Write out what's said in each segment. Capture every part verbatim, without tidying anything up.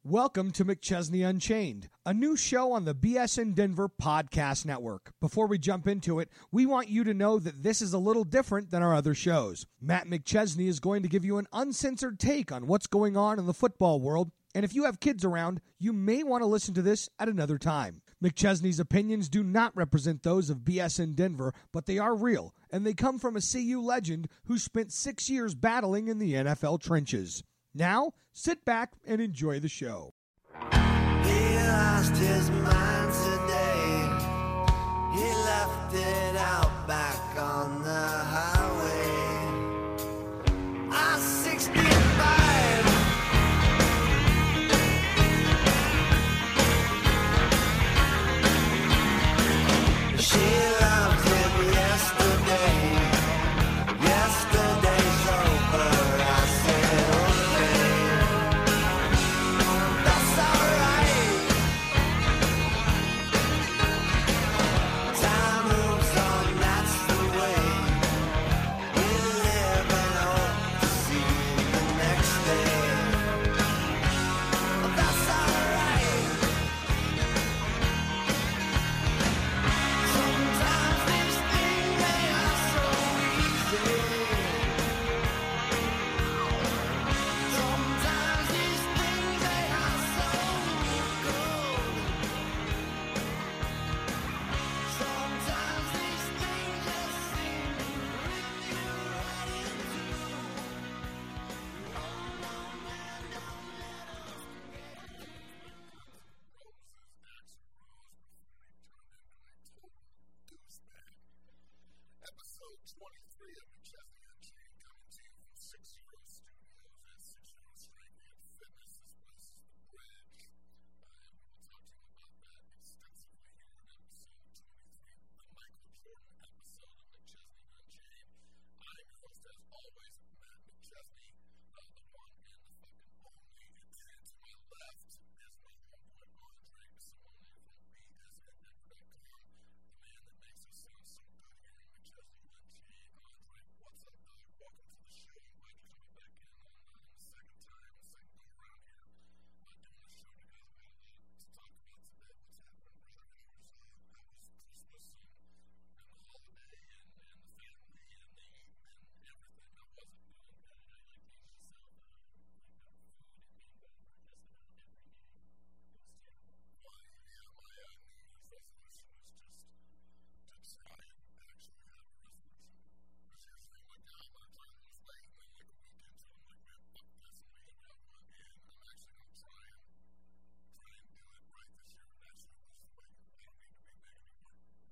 Welcome to McChesney Unchained, a new show on the B S in Denver podcast network. Before we jump into it, we want you to know that this is a little different than our other shows. Matt McChesney is going to give you an uncensored take on what's going on in the football world, and if you have kids around, you may want to listen to this at another time. McChesney's opinions do not represent those of B S in Denver, but they are real, and they come from a C U legend who spent six years battling in the N F L trenches. Now, sit back and enjoy the show. He lost his mind today. He left it out back on the highway. I sixty-five. She loved him yesterday. Yesterday's over. I said, that's alright. Time moves on, that's the way we live and hope to see the next day. That's alright. Sometimes these things they are so easy. Sometimes these things they are so good. Sometimes these things just seem to rip you right into. Oh no, man, don't let us forget. Episode twenty-three of McChesney Unchained, coming to you from Six Zero Studios and Six Zero Strength and Fitness. This place is the Bridge. Uh, and we will talk to you about that extensively here in episode twenty-three, the Michael Jordan episode of McChesney Unchained. I'm your host, as always, Matt McChesney, uh, the one and the fucking only. And to my left is my homeboy Andre Simone from B S N Denver dot com, the man that makes us sound so good here in McChesney Unchained. Andre, what's up, dog? Welcome to the show. I'm glad you're coming back in on uh, the second time, the second go around here, uh, doing the show together. We got a lot to talk about today. What's happening, brother? How was, uh, how was Christmas and, and the holiday and, and the family and the eating and everything? How was it, dude? Uh, like you just said, uh, like uh, food and being better just about every day. It was terrible. Well, yeah, my uh, New Year's resolution was just to try and actually have a resolution. Because here's the thing, like, I'm going to try to lose weight, and then like a week into it, I'm like, man, fuck this, I'm going to hit that one, and I'm actually going to try and, try and do it right this year and actually lose the weight. I don't need to be big anymore.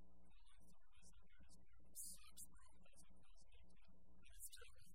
It sucks, bro. It's terrible.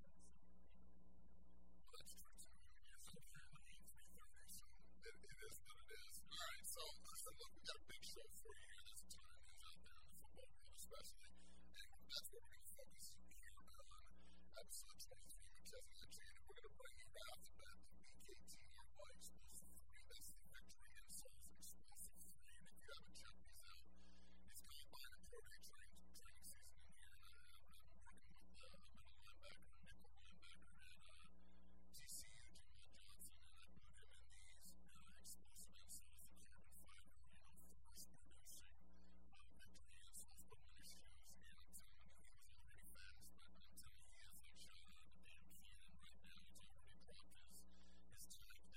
Well, that's true too. I mean, you're still fairly eat three thirty, so it, it is what it is. Alright, so listen, look, we got a big show for you here. There's a ton of news out there in the football world, especially, and that's what we're going to focus here on episode twenty-three of McChesney Unchained. And we're going to bring you right off the bat the B K T R Y Explosive three. That's the Victory Insoles Explosive three. And if you haven't checked these out, it's combine and pro day training, training season in here. And I, I've been working with uh, a middle linebacker, a nickel linebacker at uh, T C U, Jamal Johnson, and I put him in these uh, explosive insoles, the carbon fiber, you know, force producing uh, Victory insoles. Put him in his shoes, and I'm telling you, he was already fast, but I'm telling you, he is like shot out of a damn cannon right now. He's already dropped his, his time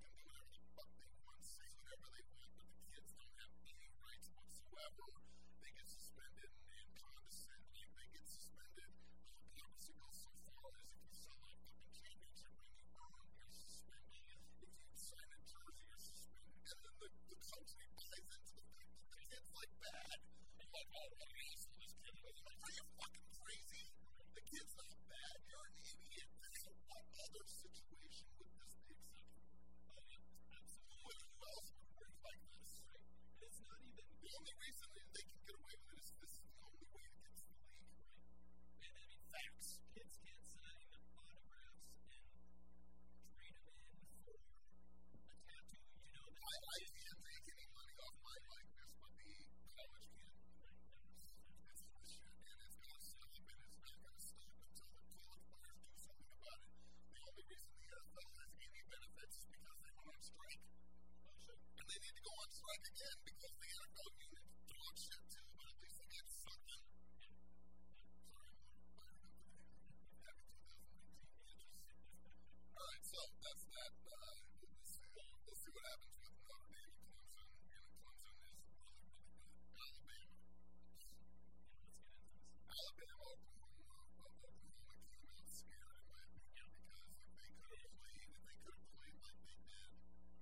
can do whatever the fuck they want, say whatever they want, but the kids don't have any rights whatsoever. They get suspended and condescend, like they get suspended. Uh, Hypocrisy goes so far as if you sell a fucking championship ring, you earn, you're suspended. If you sign a jersey, you're suspended. And then the, the country buys into the fact that the kid's like bad. You're like, oh, what an asshole this kid is. Like, are you fucking crazy? The kid's not bad. You're an idiot. So what other situation would this be acceptable? Oh, yeah, absolutely. Who else would work like this? Right. And it's not even the only reason that they can get away with it is this is the only way to get to the league. Right. And I mean, facts. Kids can't sign autographs and trade them in for a tattoo. You know, I, I can't make any money off my likeness, but the college can. Right. It's bullshit, and it's going to stop, and it's not going to stop until the college players do something about it. The only reason the N F L has any benefits is because they went on strike. Oh, shit. And they need to go on strike again because the N F L union dog shit too, but at least they get something. Yeah. Sorry, I'm fired up today. Happy twenty eighteen. Alright, so that's that. Uh, we'll, see, we'll see what happens with Notre Dame and Clemson. And Clemson is really, really good. Alabama. Yeah, let's get into this. Alabama, Oklahoma. Oklahoma came out scared, in my opinion, because if they could have played, if they could have played like they did,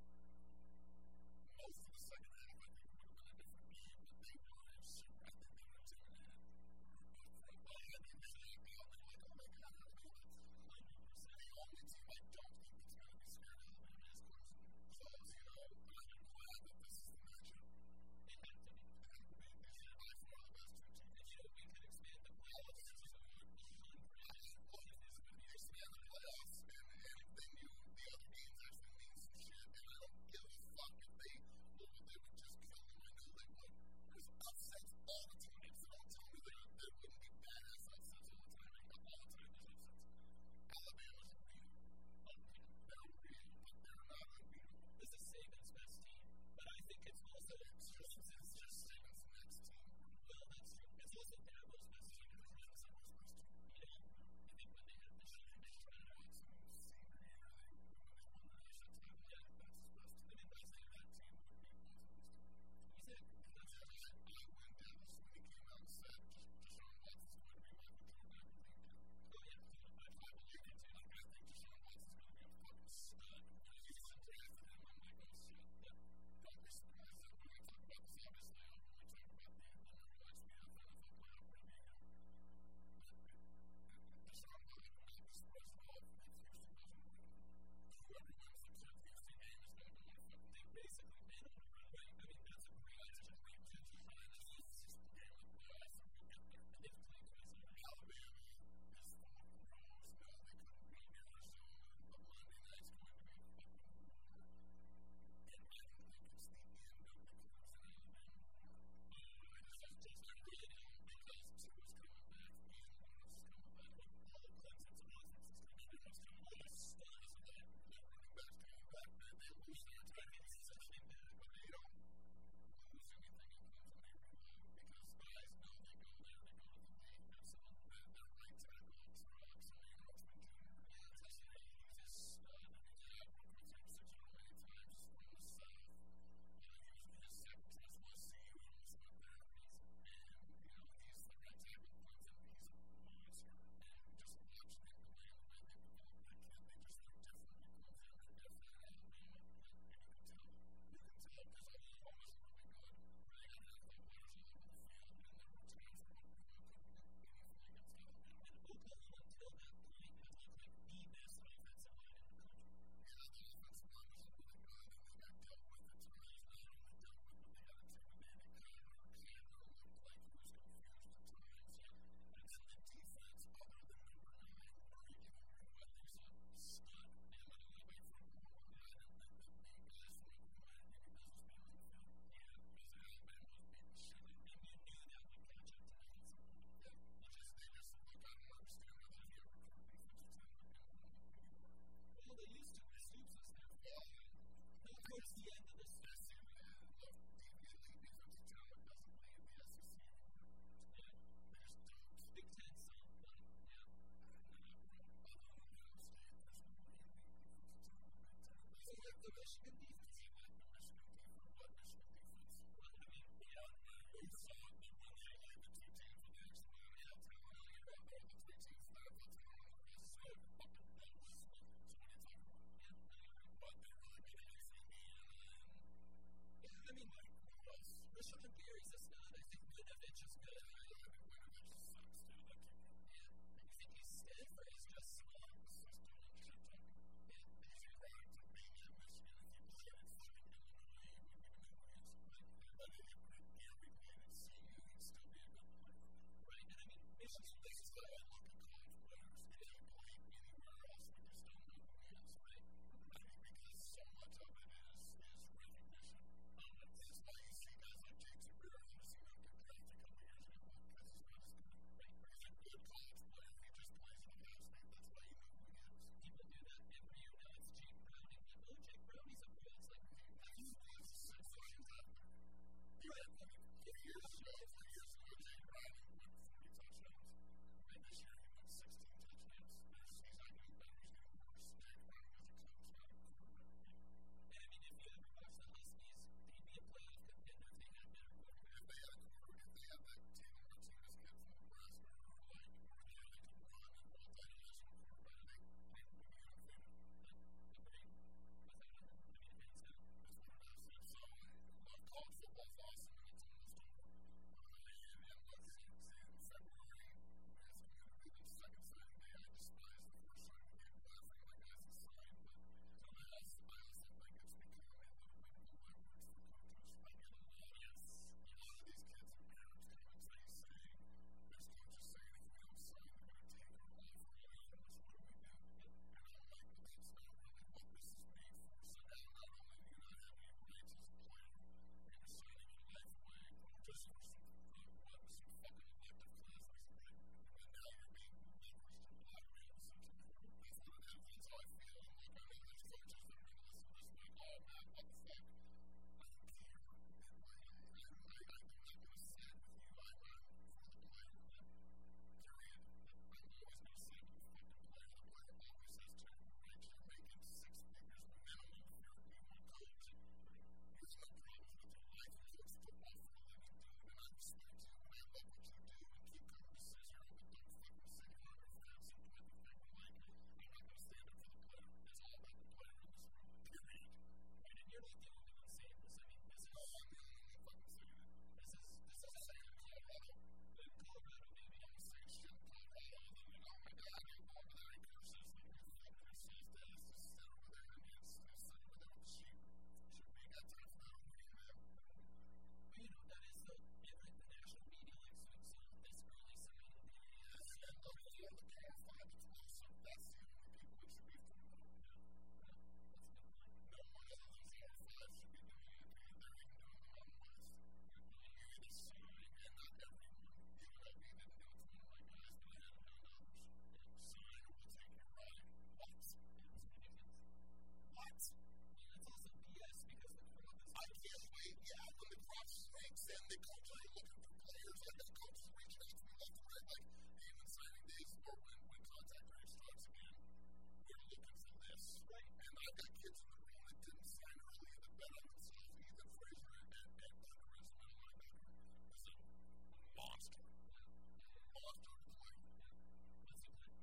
most of the second half, I think it would have been a different game, but they were super. I think they were intimidated. From behind, they just knocked out. They were like, oh my god, how do we do this? one hundred percent. The only team I don't think that's going to be scared of Alabama is Clemson. So, you know, I'm glad that this is the matchup. It had to be. It had to be. These are by far the best two teams. And you know, we could expand the playoffs to one hundred. Well, it's going to be expand the playoffs, and, and then you, the other games actually mean some shit, and I don't give a fuck if they, well, they would just kill them. I know they would. There's upsets all the time, so don't tell me that there wouldn't be badass upsets all the time. All the time there's upsets. Alabama's real. They're real, but they're not unbeatable. This is Saban's best team, but I think it's also it's just, it's just Saban's next team. Well, that's true. It's also Dabo's best team. It's not Saban's best team. You know, I think when they had the shit, they tried to win some senior year, they, when they won the national title, yeah, that's his best team. I mean, that's the, that team would be Clemson's team. You said, that's what I said. I went Dallas when he came out and said, just Deshaun Watson's going to be my quarterback. Oh, yeah, I, I believe it too. Like, I think Deshaun Watson's going to be a fucking stud. When he gets drafted him, I'm like, oh shit, yeah. Don't be surprised that when we talk about this, obviously, when we talk about the, the number one speed of the N F L playoff run, you know, Deshaun Watson will not be surprised at all if Houston doesn't win. Whoever wins the Houston game is going to win a fucking thing. Basically, they don't run away. I mean, that's a great, that's a great position. And it's just a game of playoffs, and we'll get there. And they've played twice already. Alabama is full of pros. No, they couldn't beat Arizona, but Monday night's going to be a fucking war. And I don't think it's the end of the Clemson Alabama war. Uh, I just, just I really don't, because Tua's coming back, Jalen Lawrence is coming back, but all of Clemson's offense is coming back. It's coming back. It's studs of that. That running back's coming back. They, they lose their entire season back, but they don't lose anything in Clemson. They reload because guys know they go there, they go to the league. Absolutely. Their, their right tackle is Rock, so you know, Rockman Junior Yeah, it's just, he's a stud. I mean, yeah, I've worked with him six or many times just from the South. Uh, he was his second choice was C U. He almost went there. He's, and, you know, he's the right tackle of Clemson. He's a monster. And just watch them play and the way they develop that kid. They just look different in Clemson. They're different in Alabama. And you can tell. You can tell because Oklahoma's really good. They got N F L players all over the field, and there were times where Oklahoma couldn't do anything against Alabama. And Oklahoma, until that point, had looked like the best offensive line in the country. Yeah, the offensive line was really good, and they got dealt with at times. Not only dealt with, but they got intimidated. Connor, Connor looked like he was confused at times. Yeah. And then the defense, other than number nine, Murray, even Murray Whiteley's a stud. And when you went from Oklahoma, I don't think that the guys from Oklahoma had any business being on the field. Yeah, because Alabama was beating the shit out of them. And you knew that would catch up to them at some point. Yeah, you just, they just, look, I don't understand how they get recruit defensive team like Alabama anymore. Well, they used to. Stoops was there. Yeah. Not towards the end of this. S E C, look, the elite defensive talent doesn't play in the S E C anymore. Yeah, they just don't. Big Ten some, but yeah. Not really. Other than Ohio State, there's no elite defensive talent in the Big Ten. So, like, the Michigan they're the three teams that have what's going on the rest. So fucking close. So what are you talking about? But they really made it easy. And Yeah, I mean, like, who else? Rashawn Gary's a stud. I think Winovich is good. I mean, Winovich sucks too. That kid. Yeah. You think he's stiff or he's just slow? He's just doing shit talking. Yeah. He's a product of being at Michigan. If he played in fucking Illinois, he would be the who he is. But if he played at C U, he'd still be a good player. Right. And I mean, Michigan This is why I look at college players. If he played anywhere else, we just don't know who he is, right? I mean, because so much of it is is recognition. Um, that's why you see guys like Jake Zubero who see him get drafted a couple years ago because he's not as good. Right? He's a good college player. He just plays at Ohio State. That's why you know who he is. people do that every year now. It's Jake Browning. Like, oh, Jake Browning's a pro. It's like, He's he's six seconds out there. He had one four years ago. Four years ago, Jake Browning went forty touchdowns. And this year he went sixteen touchdowns. There's, he's not getting better. He's getting worse. Jake Browning is a coach, not a quarterback. and I mean, if you ever watch the Huskies, they'd be a playoff contender if they had better quarterback. If they had a quarter, if they had that Taylor Martinez kid from Nebraska, or like, or they had like a run and multi-dimensional quarterback, they, they would be undefeated. Agreed. Without a, I mean, hands down. That's what it is. And so, uh, college football's awesome, and it's almost over. Uh, and, and look, in, in February, it's going to be the second signing day. I despise the first signing day, laughing like guys that sign, but so I also, I also think it's becoming a little bit of a leverage for coaches. I get a lot of, yes, a lot of these kids and parents come and say, saying, there's coaches saying if we don't sign, they're going to take our life away from us. What do we do? And I'm like, well, that's not really what this is made for. So now not only do you not have any rights as a player, you're signing your life away just for some, uh, what, some fucking elective classes, right? And now you're being leveraged and blackmailed, essentially. That's what it is. That's how I feel. And like, I know there's coaches that are going to listen to this like, oh, man, what the fuck? I don't care. And like, I, I, I'm not going to side with you. I'm, I'm for the player. Period. I'm always going to side with the fucking player. The player always has terrible rights. You're making six figures minimum if you're being a coach. There's no problems with your life. You coach football for a living, dude. And I respect you. And I love what you do. And keep coming to Cicero. But don't fucking sit here on your fence and point the finger like, I'm not going to stand up for the player. It's all about the player in this room. Period. Right, and you're not the only one saying this. I mean, this is, No, I'm the only one fucking saying it. this is, this is I'm saying Colorado. in Colorado, maybe. I'm the same shit in Colorado. And then, oh my God, I go over there and curses. Like, you're fucking racist ass. Just sit over there and just sit over there with the sheep. Should we got time for that? What do you have? But, you know, that is the, in like, the national media, like, so, so this early signing day, Yes, and look, it's all the Power Five as well, so that's the only people it should be for. yeah, yeah, that's a good point. No one other than Power Five should be doing it, and they're even doing the Mountain West. You either sign, and not everyone. U N L V didn't do it to one of my guys, but I had a million dollars. Sign or we'll take your ride. What? Yeah, it's ridiculous. What? And it's also B S because the crowd is I can't wait. Yeah, when the crop shrinks and the coaches are looking for players, I got coaches reaching out to me left and right, like, hey, when signing days or when, when contact rate starts again, we're looking for this. Right. And I've got kids in the room that didn't sign early that bet on themselves. Ethan Frazier and, and, and Thunder is my linebacker. Is a monster. Monster to play. what's he play?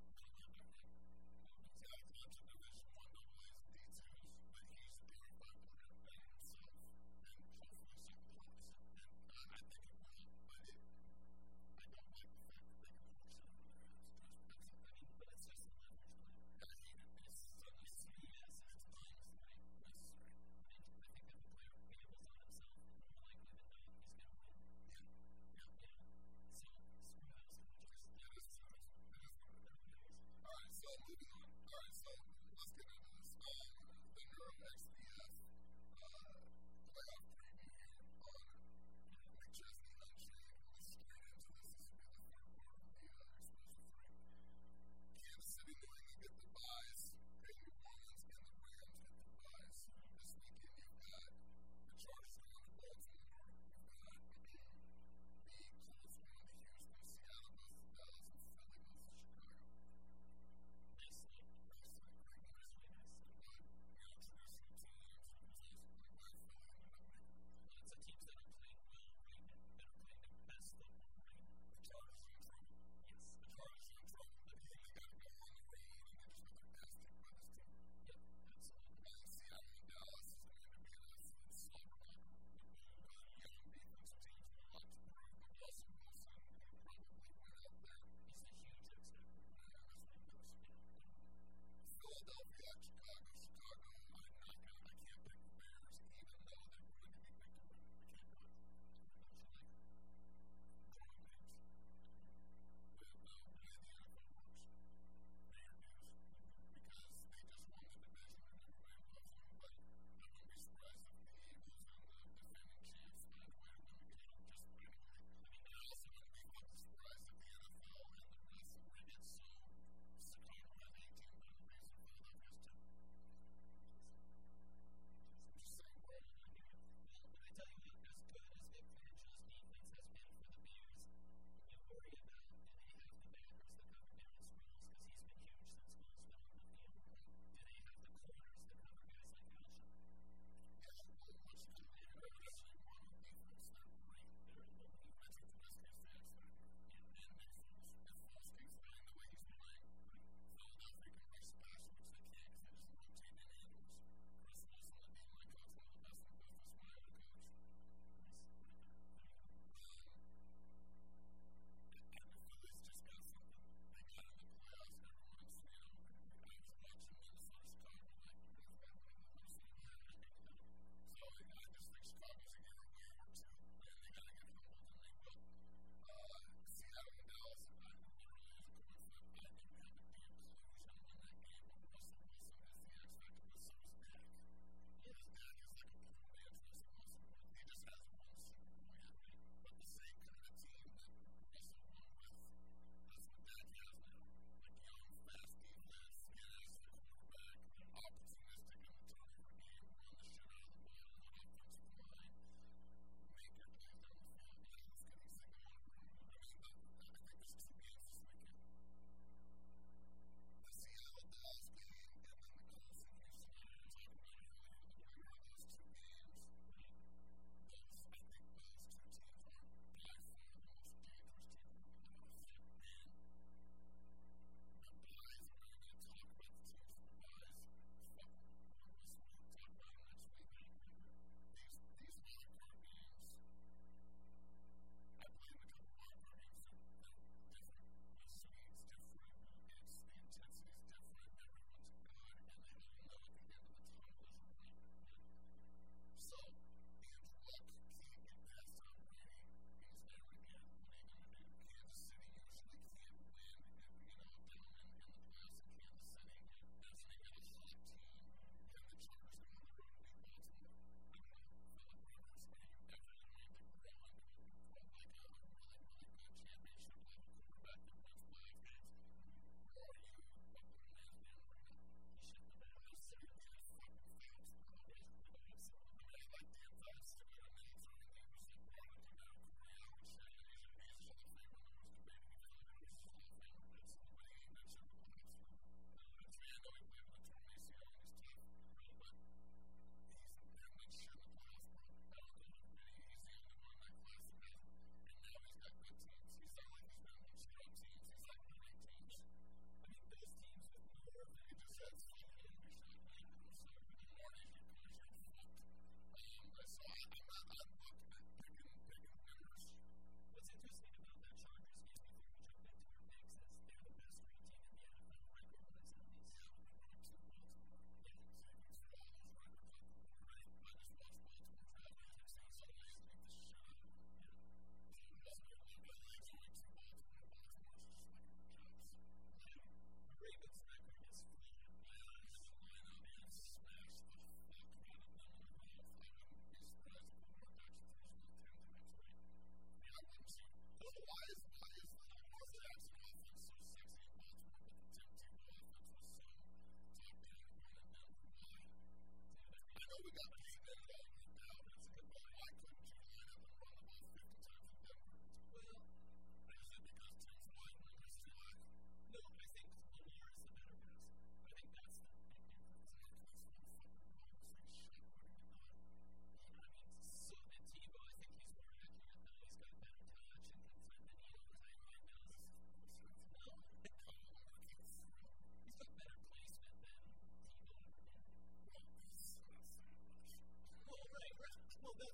He's got a bunch of Division One double A's and D twos, but he's a thirty-five player to bet on himself. And hopefully something plays. And I, I think it will, but it, I don't like the fact that they can force it over their heads. Just, that's, I mean, but it's just a leverage play. I hate it. It's, So you see, yes, it's times.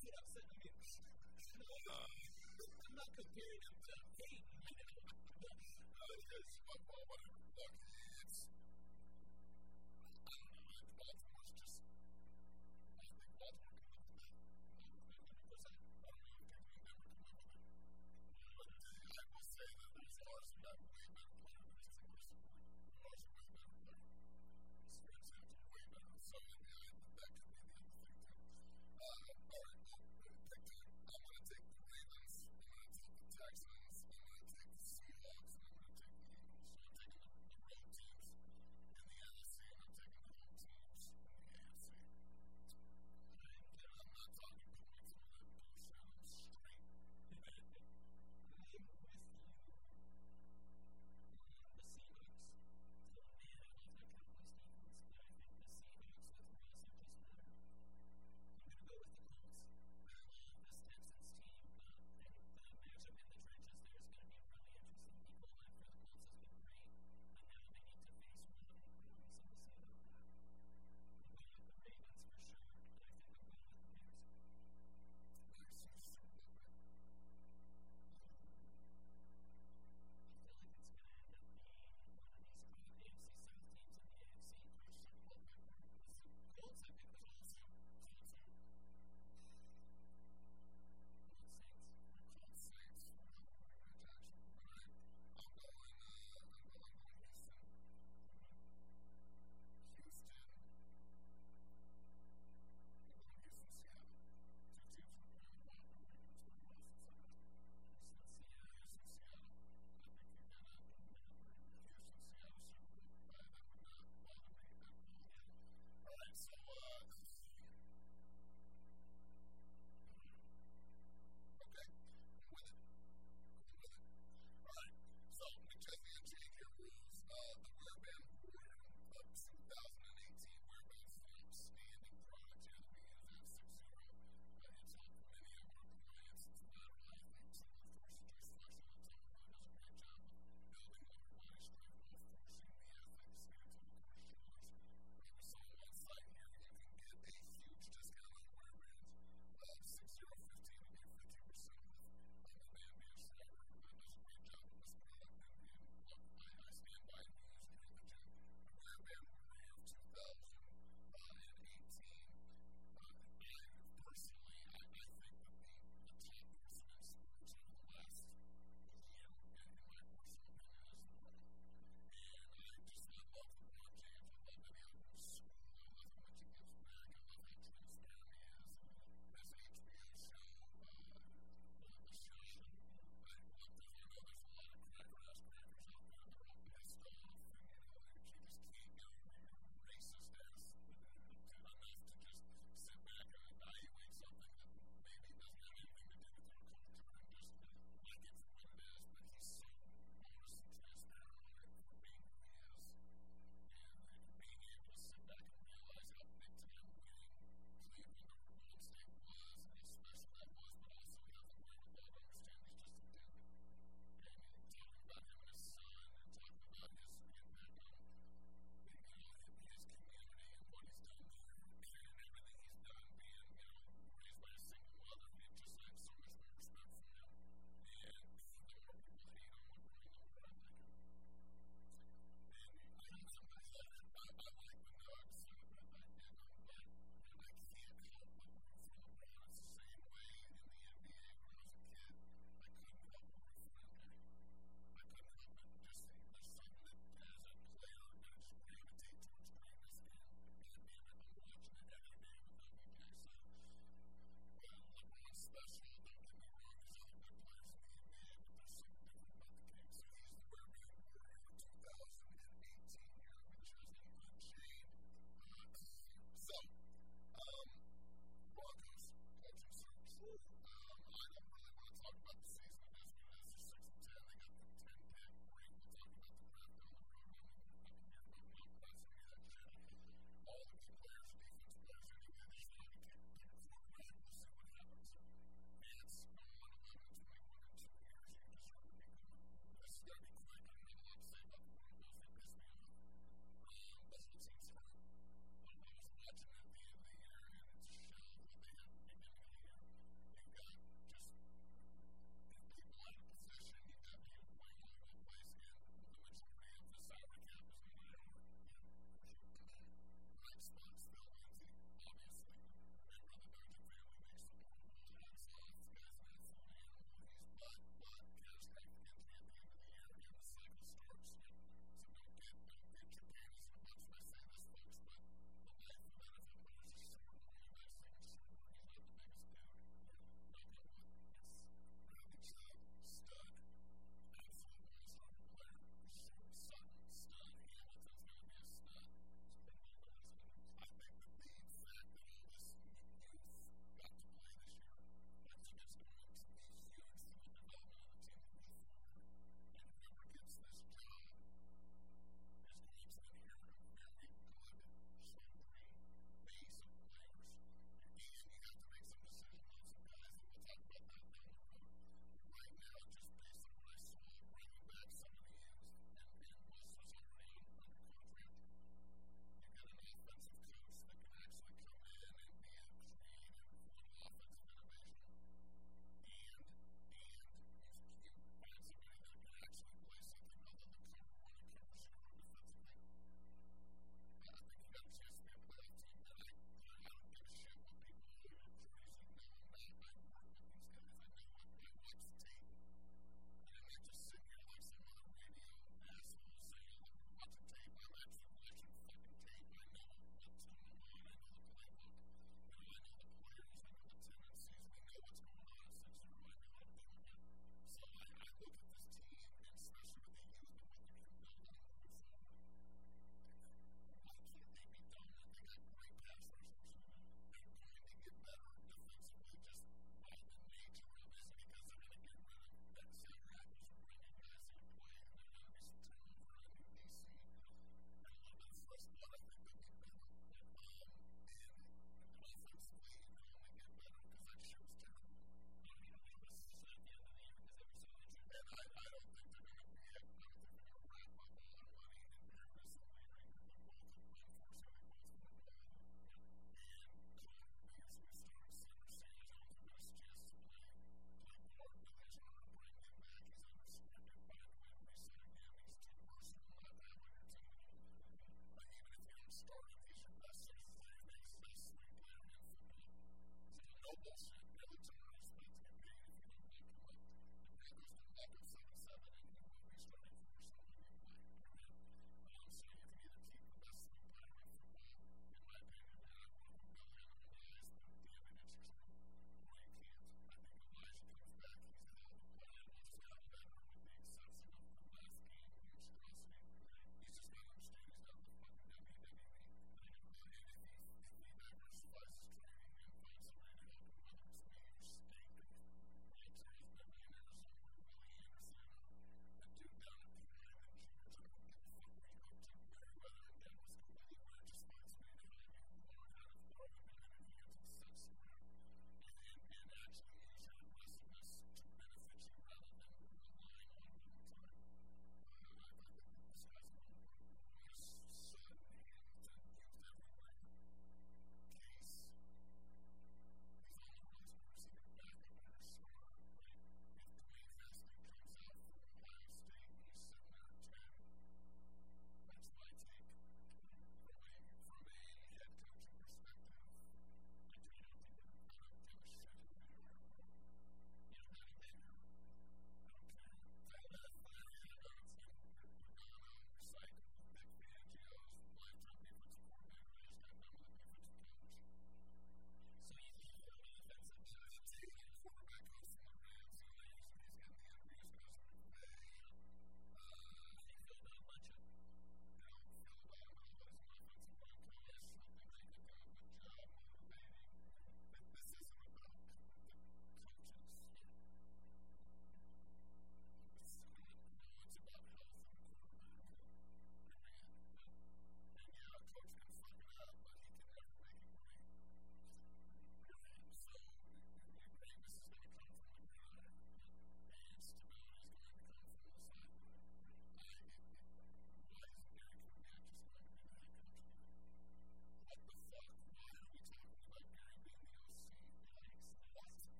that's what I'm saying. I mean, I'm not comparing him to Peyton, you know. Uh, yes, but, well, whatever. Look, it's, I don't know, like, Baltimore's just, I think Baltimore can live with that. one hundred percent. I don't know if Cleveland and Denver can live with it. But uh, I will say that the Stars have got way better player than Saint Louis. The Stars are way better player. The Spurs have way better. So, yeah, I think that could be the other thing, too. Uh, all right, well, pick two. I'm going to take the Ravens. I'm going to take the Texans. I'm going to take the Seahawks. And I'm going to take the Eagles. So I'm taking the, the road teams.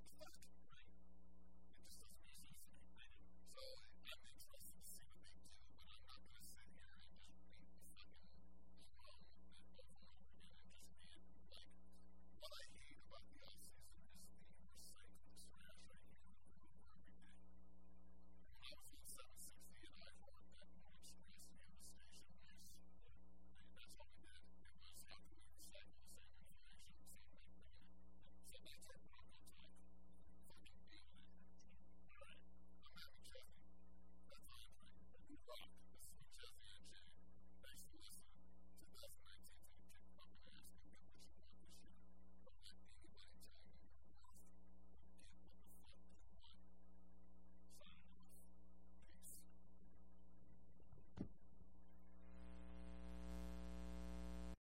fuck.